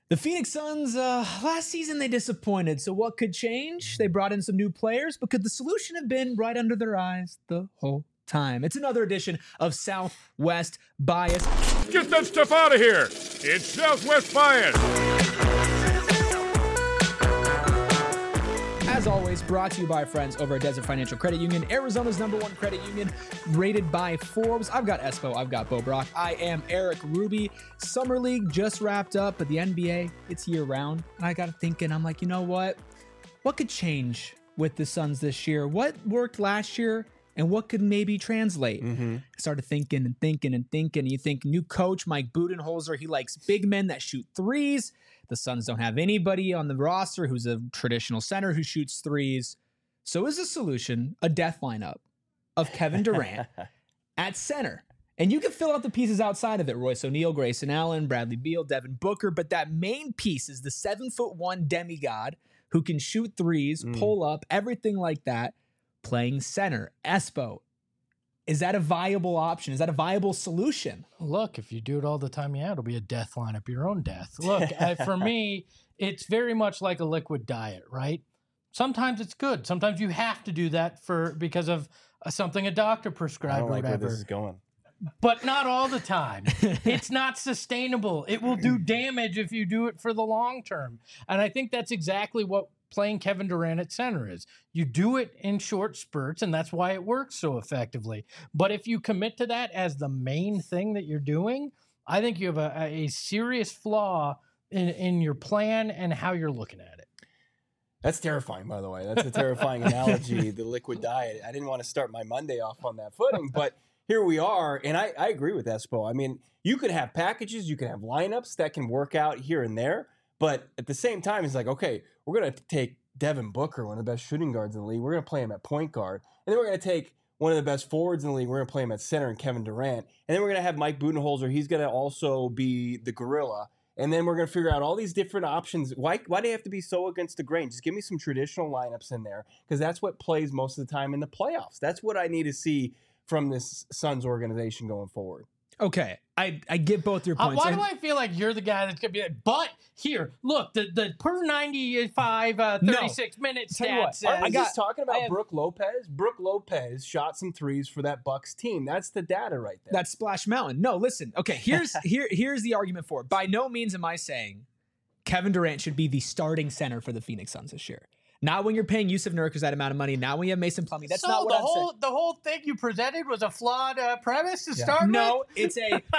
The Phoenix Suns, last season they disappointed. So what could change? They brought in some new players, but could the solution have been right under their eyes the whole time? It's another edition of Southwest Bias. Get that stuff out of here. It's Southwest Bias. As always, brought to you by our friends over at Desert Financial Credit Union, Arizona's #1 credit union, rated by Forbes. I've got Espo, I've got Bo Brock. I am Eric Ruby. Summer League just wrapped up, but the NBA, it's year-round. And I got thinking, I'm like, you know what? What could change with the Suns this year? What worked last year? And what could maybe translate? I started thinking and thinking and thinking. You think new coach Mike Budenholzer, he likes big men that shoot threes. The Suns don't have anybody on the roster who's a traditional center who shoots threes. So is the solution a death lineup of Kevin Durant at center? And you can fill out the pieces outside of it. Royce O'Neal, Grayson Allen, Bradley Beal, Devin Booker. But that main piece is the 7'1" demigod who can shoot threes, pull up, everything like that, playing center. Espo, is that a viable option? Is that a viable solution? Look, if you do it all the time, yeah, it'll be a death lineup, your own death. Look, for me, it's very much like a liquid diet, right? Sometimes it's good. Sometimes you have to do that because of something a doctor prescribed I don't or like whatever. where this is going. But not all the time. It's not sustainable. It will do damage if you do it for the long term. And I think that's exactly what playing Kevin Durant at center is. You do it in short spurts, and that's why it works so effectively. But if you commit to that as the main thing that you're doing, I think you have a serious flaw in your plan and how you're looking at it. That's terrifying, by the way. That's a terrifying analogy, the liquid diet. I didn't want to start my Monday off on that footing, but here we are, and I agree with Espo. I mean, you could have packages, you can have lineups that can work out here and there, but at the same time, it's like, okay, we're going to take Devin Booker, one of the best shooting guards in the league. We're going to play him at point guard. And then we're going to take one of the best forwards in the league. We're going to play him at center and Kevin Durant. And then we're going to have Mike Budenholzer. He's going to also be the gorilla. And then we're going to figure out all these different options. Why do they have to be so against the grain? Just give me some traditional lineups in there, because that's what plays most of the time in the playoffs. That's what I need to see from this Suns organization going forward. Okay, I get both your points. Why do I feel like you're the guy that's going to be like, but here, look, the per 95, 36 minute Tell you what, stats. I was talking about Brooke Lopez. Brooke Lopez shot some threes for that Bucks team. That's the data right there. That's Splash Mountain. No, listen. Okay, here's the argument for it. By no means am I saying Kevin Durant should be the starting center for the Phoenix Suns this year. Not when you're paying Yusuf Nurkic that amount of money. Not when you have Mason Plumlee. That's not what I'm saying. The whole thing you presented was a flawed premise to start with? No, it's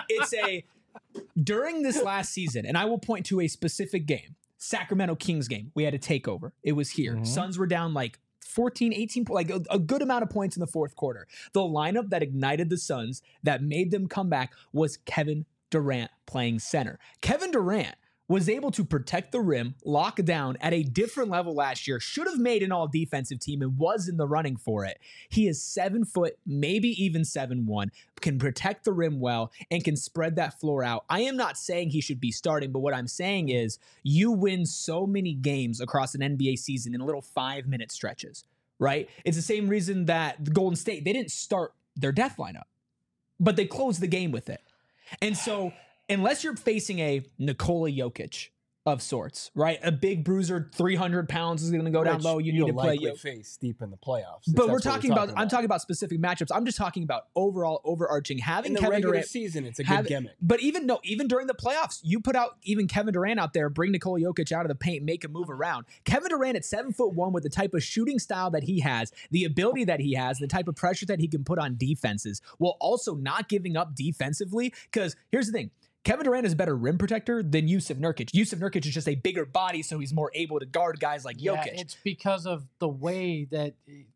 a during this last season, and I will point to a specific game, Sacramento Kings game. We had a takeover. It was here. Suns were down like 14, 18, like a good amount of points in the fourth quarter. The lineup that ignited the Suns, that made them come back, was Kevin Durant playing center. Kevin Durant was able to protect the rim, lock down at a different level last year, should have made an all-defensive team and was in the running for it. He is 7 foot, maybe even 7'1", can protect the rim well, and can spread that floor out. I am not saying he should be starting, but what I'm saying is you win so many games across an NBA season in little 5-minute stretches, right? It's the same reason that the Golden State, they didn't start their death lineup, but they closed the game with it. And so unless you're facing a Nikola Jokic of sorts, right? A big bruiser, 300 pounds is going to go down low. You need to play Jokic face deep in the playoffs. But I'm talking about specific matchups. I'm just talking about overall overarching. Having in the Kevin regular Durant season, it's a good gimmick. But even during the playoffs, you put out even Kevin Durant out there, bring Nikola Jokic out of the paint, make him move around. Kevin Durant at 7'1" with the type of shooting style that he has, the ability that he has, the type of pressure that he can put on defenses, while also not giving up defensively. Because here's the thing. Kevin Durant is a better rim protector than Yusuf Nurkic. Yusuf Nurkic is just a bigger body, so he's more able to guard guys like Jokic. Yeah, it's because of the way that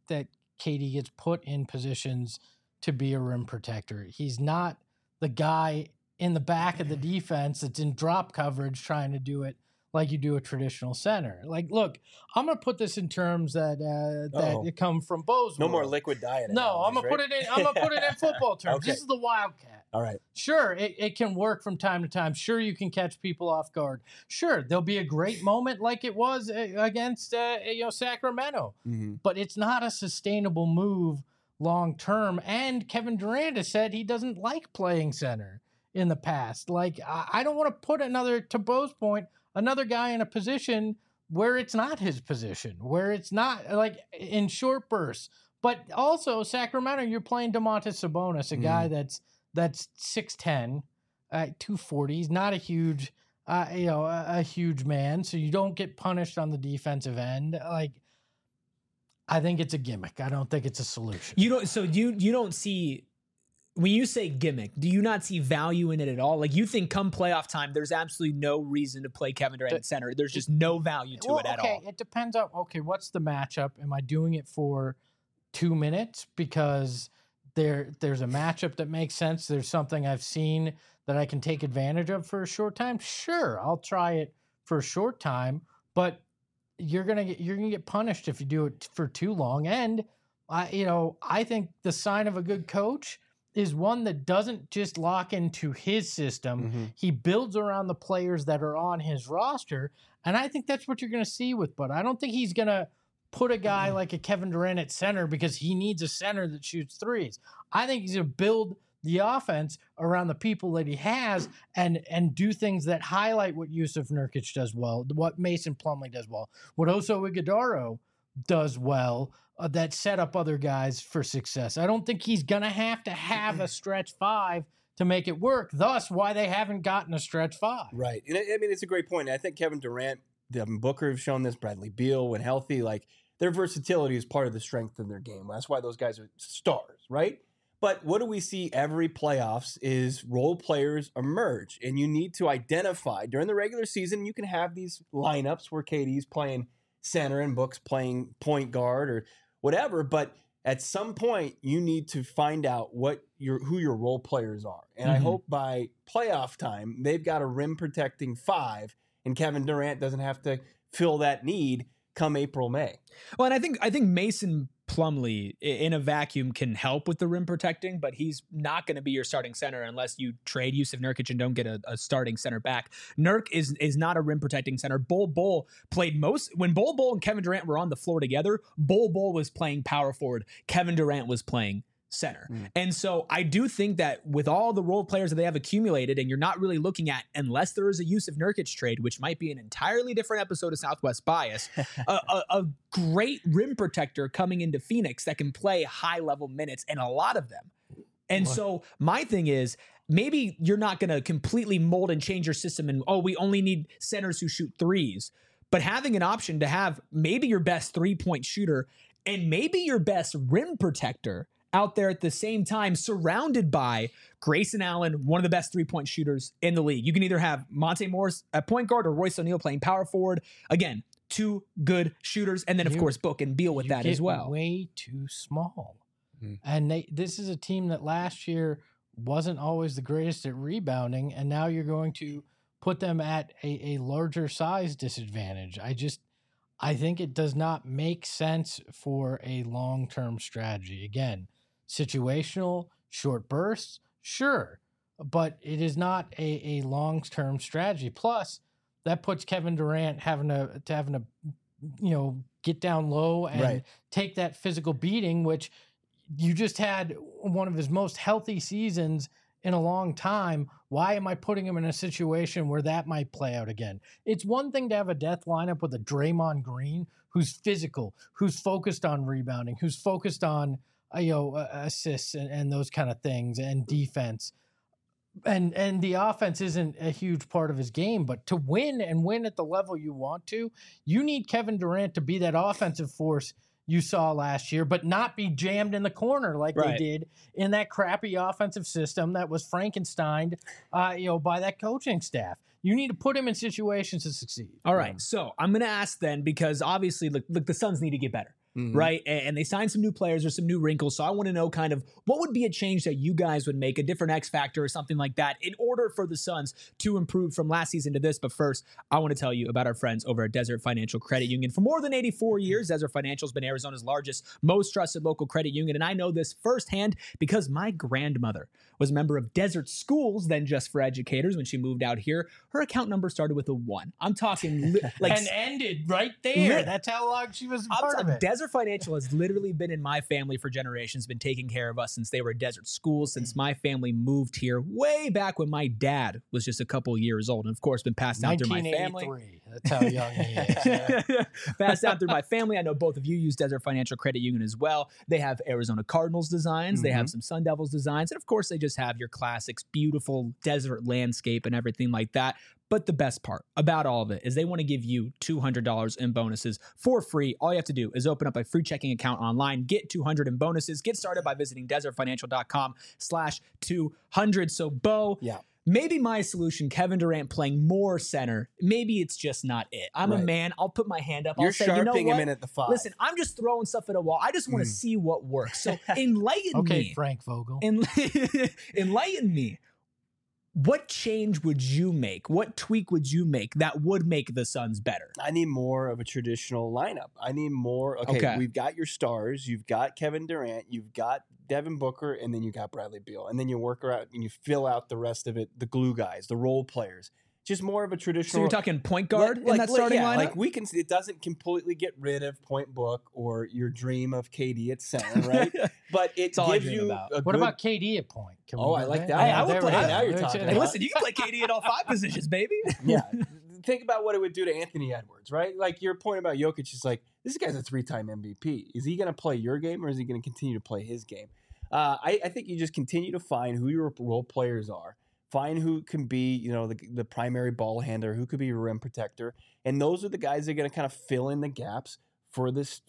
KD gets put in positions to be a rim protector. He's not the guy in the back of the defense that's in drop coverage trying to do it like you do a traditional center. Like, look, I'm going to put this in terms that come from Bo's No world. more liquid diet. No, I'm gonna put it in. I'm gonna put it in football terms. Okay. This is the Wildcat. All right. Sure, it can work from time to time. Sure, you can catch people off guard. Sure, there'll be a great moment like it was against Sacramento, but it's not a sustainable move long term. And Kevin Durant has said he doesn't like playing center in the past. Like, I don't want to put another, to Bo's point, another guy in a position where it's not his position, where it's not like in short bursts. But also Sacramento, you're playing Domantas Sabonis, a guy that's 6'10", 240. He's not a huge, a huge man, so you don't get punished on the defensive end. Like, I think it's a gimmick. I don't think it's a solution. You don't see, when you say gimmick, do you not see value in it at all? Like, you think come playoff time, there's absolutely no reason to play Kevin Durant at center. There's just no value to it at all. It depends on, what's the matchup? Am I doing it for 2 minutes because there's a matchup that makes sense? There's something I've seen that I can take advantage of for a short time. Sure, I'll try it for a short time, but you're gonna get punished if you do it for too long. And I think the sign of a good coach is one that doesn't just lock into his system. Mm-hmm. He builds around the players that are on his roster, and I think that's what you're going to see with Bud. I don't think he's going to put a guy like a Kevin Durant at center because he needs a center that shoots threes. I think he's going to build the offense around the people that he has and do things that highlight what Yusuf Nurkic does well, what Mason Plumlee does well, what Oso Ighodaro does well, that set up other guys for success. I don't think he's going to have a stretch five to make it work. Thus, why they haven't gotten a stretch five. Right. And I mean, it's a great point. I think Kevin Durant, Devin Booker have shown this, Bradley Beal, when healthy, like their versatility is part of the strength of their game. That's why those guys are stars, right? But what do we see every playoffs is role players emerge, and you need to identify during the regular season. You can have these lineups where KD's playing center and Book's playing point guard or whatever, but at some point you need to find out who your role players are. And I hope by playoff time they've got a rim protecting five, and Kevin Durant doesn't have to fill that need come April, May. Well, and I think Mason Plumlee in a vacuum can help with the rim protecting, but he's not going to be your starting center unless you trade Yusuf Nurkic and don't get a starting center back. Nurk is not a rim protecting center. Bol played when Bol and Kevin Durant were on the floor together, Bol was playing power forward. Kevin Durant was playing center. And so I do think that with all the role players that they have accumulated, and you're not really looking at, unless there is a Yusuf Nurkic trade, which might be an entirely different episode of Southwest Bias, a great rim protector coming into Phoenix that can play high level minutes, and a lot of them. And so my thing is, maybe you're not going to completely mold and change your system and, we only need centers who shoot threes, but having an option to have maybe your best 3-point shooter and maybe your best rim protector out there at the same time, surrounded by Grayson Allen, one of the best 3-point shooters in the league. You can either have Monte Morris at point guard or Royce O'Neal playing power forward. Again, two good shooters. And then, of course, Book and Beal with that as well. Way too small. And this is a team that last year wasn't always the greatest at rebounding, and now you're going to put them at a larger size disadvantage. I think it does not make sense for a long-term strategy. Again, situational, short bursts, sure, but it is not a long-term strategy. Plus, that puts Kevin Durant having to get down low and take that physical beating, which you just had one of his most healthy seasons in a long time. Why am I putting him in a situation where that might play out again? It's one thing to have a death lineup with a Draymond Green who's physical, who's focused on rebounding, who's focused on assists and those kind of things and defense. And the offense isn't a huge part of his game, but to win and win at the level you want to, you need Kevin Durant to be that offensive force you saw last year, but not be jammed in the corner like they did in that crappy offensive system that was Frankensteined, by that coaching staff. You need to put him in situations to succeed. All right. So I'm going to ask then, because obviously, look, the Suns need to get better. Right. And they signed some new players or some new wrinkles. So I want to know kind of what would be a change that you guys would make, a different X factor or something like that, in order for the Suns to improve from last season to this. But first, I want to tell you about our friends over at Desert Financial Credit Union. For more than 84 years, Desert Financial has been Arizona's largest, most trusted local credit union. And I know this firsthand because my grandmother was a member of Desert Schools, then Just for Educators, when she moved out here. Her account number started with a 1. I'm talking like and ended right there. That's how long she was a part of it. Desert Financial has literally been in my family for generations, been taking care of us since they were Desert Schools, since my family moved here way back when my dad was just a couple years old. And of course, been passed down through my family. 1983. That's how young he is. Passed down through my family. I know both of you use Desert Financial Credit Union as well. They have Arizona Cardinals designs. They have some Sun Devils designs. And of course, they just have your classics, beautiful desert landscape and everything like that. But the best part about all of it is they want to give you $200 in bonuses for free. All you have to do is open up a free checking account online, get $200 in bonuses. Get started by visiting desertfinancial.com/200. So, Bo, maybe my solution, Kevin Durant playing more center, maybe it's just not it. I'm a man. I'll put my hand up. You're I'll say, sharpening you know what? him in at the 5. Listen, I'm just throwing stuff at a wall. I just want to see what works. So enlighten me. Okay, Frank Vogel. Enlighten me. What change would you make? What tweak would you make that would make the Suns better? I need more of a traditional lineup. I need more. Okay, we've got your stars. You've got Kevin Durant. You've got Devin Booker, and then you got Bradley Beal. And then you work around and you fill out the rest of it, the glue guys, the role players. Just more of a traditional. So you're talking point guard in that starting lineup? Like we can. It doesn't completely get rid of Point Book or your dream of KD at center, right? But it gives you. What about KD at point? I like that. I would play. Now you're talking. Hey, listen, you can play KD at all 5 positions, baby. Yeah. Think about what it would do to Anthony Edwards, right? Like your point about Jokic is like, this guy's a 3-time MVP. Is he going to play your game or is he going to continue to play his game? I think you just continue to find who your role players are. Find who can be, the primary ball handler, who could be a rim protector. And those are the guys that are going to kind of fill in the gaps for this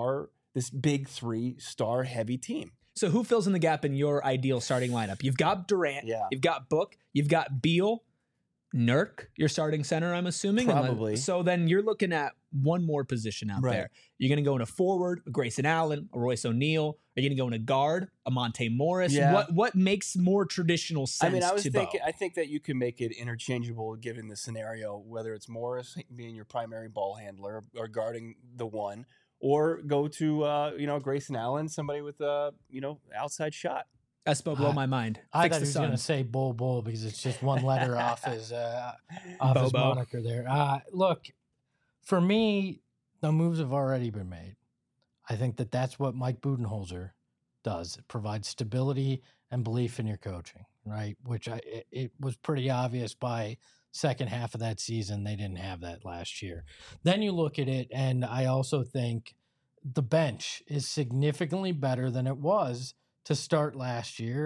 big 3 star heavy team. So who fills in the gap in your ideal starting lineup? You've got Durant, you've got Book, you've got Beal, Nurk, your starting center, I'm assuming. Probably. So then you're looking at one more position out there. You're going to go in a forward, a Grayson Allen, a Royce O'Neal. Are you going to go in a guard, a Monte Morris? Yeah. What makes more traditional sense I think that you can make it interchangeable given the scenario, whether it's Morris being your primary ball handler or guarding the 1, or go to, Grayson Allen, somebody with a, outside shot. That spoke blow my mind. I thought he was going to say Bull because it's just one letter off his moniker there. Look, for me, the moves have already been made. I think that's what Mike Budenholzer does. It provides stability and belief in your coaching, right? Which it was pretty obvious by second half of that season. They didn't have that last year. Then you look at it, and I also think the bench is significantly better than it was to start last year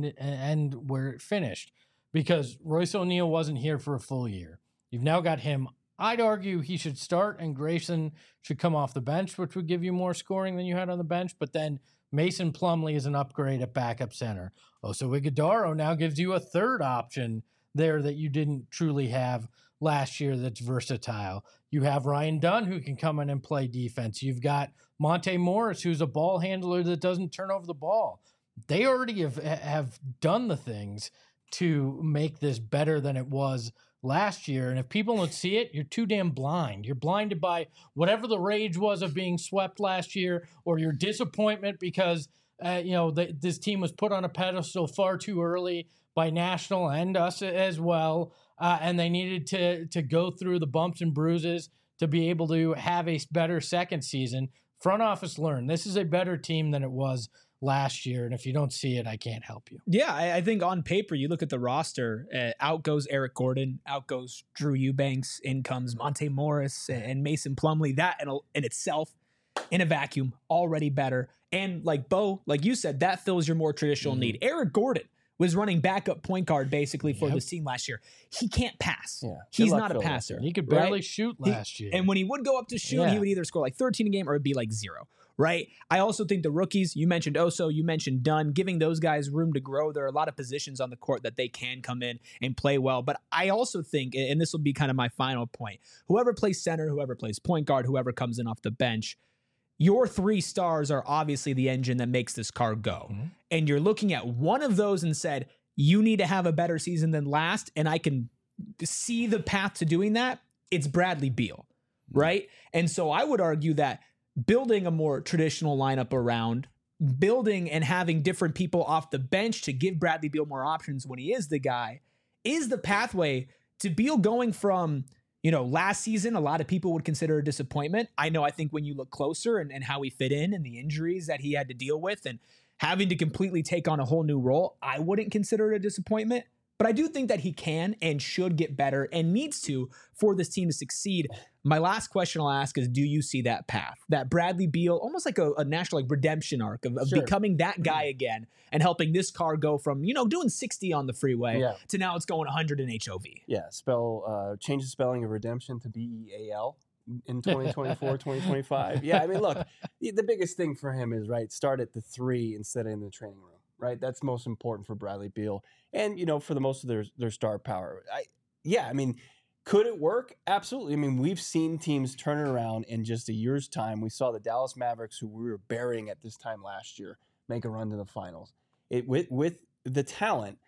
and where it finished, because Royce O'Neal wasn't here for a full year. You've now got him. I'd argue he should start and Grayson should come off the bench, which would give you more scoring than you had on the bench. But then Mason Plumlee is an upgrade at backup center. Oso Ighodaro now gives you a third option there that you didn't truly have last year that's versatile. You have Ryan Dunn who can come in and play defense. You've got Monte Morris, who's a ball handler that doesn't turn over the ball. They already have done the things to make this better than it was last year. And if people don't see it, you're too damn blind. You're blinded by whatever the rage was of being swept last year, or your disappointment because this team was put on a pedestal far too early by National and us as well. And they needed to go through the bumps and bruises to be able to have a better second season. Front office learned this is a better team than it was last year. And if you don't see it, I can't help you. Yeah, I think on paper, you look at the roster, out goes Eric Gordon, out goes Drew Eubanks, in comes Monte Morris and Mason Plumlee. That in itself, in a vacuum, already better. And like Bo, like you said, that fills your more traditional need. Eric Gordon was running backup point guard basically for this team last year. He can't pass. Yeah. He's not a passer. He could barely shoot last year. And when he would go up to shoot, he would either score like 13 a game or it'd be like 0. Right. I also think the rookies, you mentioned Oso, you mentioned Dunn, giving those guys room to grow. There are a lot of positions on the court that they can come in and play well. But I also think, and this will be kind of my final point, whoever plays center, whoever plays point guard, whoever comes in off the bench, your 3 stars are obviously the engine that makes this car go. Mm-hmm. And you're looking at one of those and said, you need to have a better season than last. And I can see the path to doing that. It's Bradley Beal. Right. And so I would argue that building a more traditional lineup around, building and having different people off the bench to give Bradley Beal more options when he is the guy, is the pathway to Beal going from, last season, a lot of people would consider a disappointment. I think when you look closer and how he fit in and the injuries that he had to deal with and having to completely take on a whole new role, I wouldn't consider it a disappointment. But I do think that he can and should get better and needs to for this team to succeed. My last question I'll ask is, do you see that path? That Bradley Beal, almost like a national redemption arc of Sure. becoming that guy again and helping this car go from, doing 60 on the freeway to now it's going 100 in HOV. Yeah, change the spelling of redemption to BEAL in 2024, 2025. Yeah, I mean, look, the biggest thing for him is, start at the 3 instead of in the training room. Right, that's most important for Bradley Beal, and for the most of their star power. Could it work? Absolutely. I mean, we've seen teams turn it around in just a year's time. We saw the Dallas Mavericks, who we were burying at this time last year, make a run to the finals. With the talent,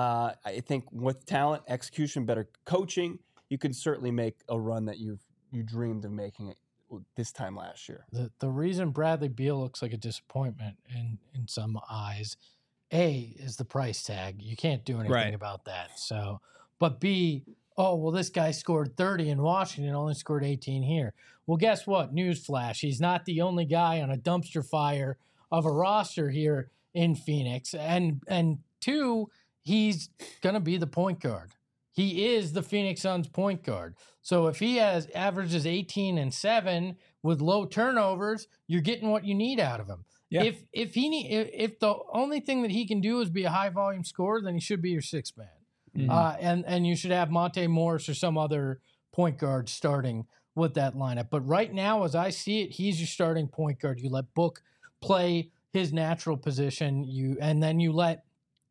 I think with talent, execution, better coaching, you can certainly make a run that you dreamed of making it this time last year. The reason Bradley Beal looks like a disappointment in some eyes, A, is the price tag. You can't do anything about that. So, but B, this guy scored 30 in Washington, only scored 18 here. Well, guess what? Newsflash. He's not the only guy on a dumpster fire of a roster here in Phoenix. And 2, he's going to be the point guard. He is the Phoenix Suns point guard. So if he averages 18 and 7 with low turnovers, you're getting what you need out of him. Yeah. If the only thing that he can do is be a high volume scorer, then he should be your 6th man. Mm-hmm. And you should have Monte Morris or some other point guard starting with that lineup. But right now, as I see it, he's your starting point guard. You let Book play his natural position. And then you let,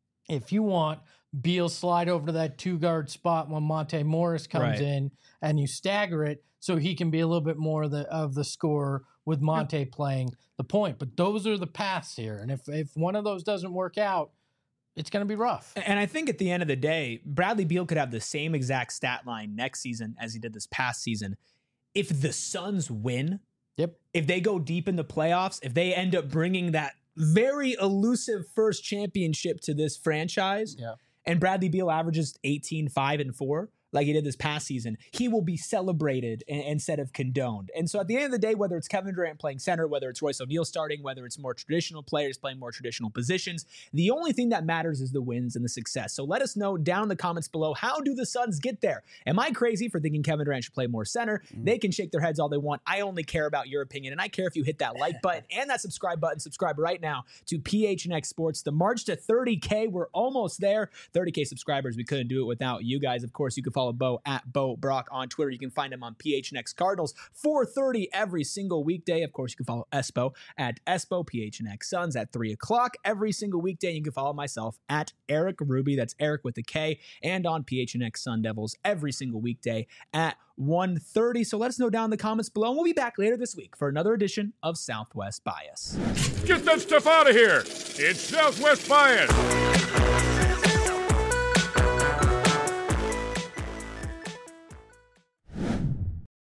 if you want, Beal slide over to that 2-guard spot when Monte Morris comes in, and you stagger it so he can be a little bit more of the scorer with Monte playing the point. But those are the paths here. And if one of those doesn't work out, it's going to be rough. And I think at the end of the day, Bradley Beal could have the same exact stat line next season as he did this past season. If the Suns win, if they go deep in the playoffs, if they end up bringing that very elusive first championship to this franchise, and Bradley Beal averages 18, 5, and 4, like he did this past season, he will be celebrated instead of condoned. And so at the end of the day, whether it's Kevin Durant playing center, whether it's Royce O'Neal starting, whether it's more traditional players playing more traditional positions, the only thing that matters is the wins and the success. So let us know down in the comments below, how do the Suns get there? Am I crazy for thinking Kevin Durant should play more center? They can shake their heads all they want. I only care about your opinion, and I care if you hit that like button and that subscribe button. Subscribe right now to PHNX Sports. The march to 30K, we're almost there. 30K subscribers. We couldn't do it without you guys. Of course, you can follow Bo at Bo Brock on Twitter. You can find him on PHNX Cardinals, 4:30 every single weekday. Of course, you can follow Espo at Espo, PHNX Suns at 3 o'clock every single weekday. You can follow myself at Eric Ruby, that's Eric with a K, and on PHNX Sun Devils every single weekday at 1:30. So let us know down in the comments below, and we'll be back later this week for another edition of Southwest Bias. Get that stuff out of here. It's Southwest Bias.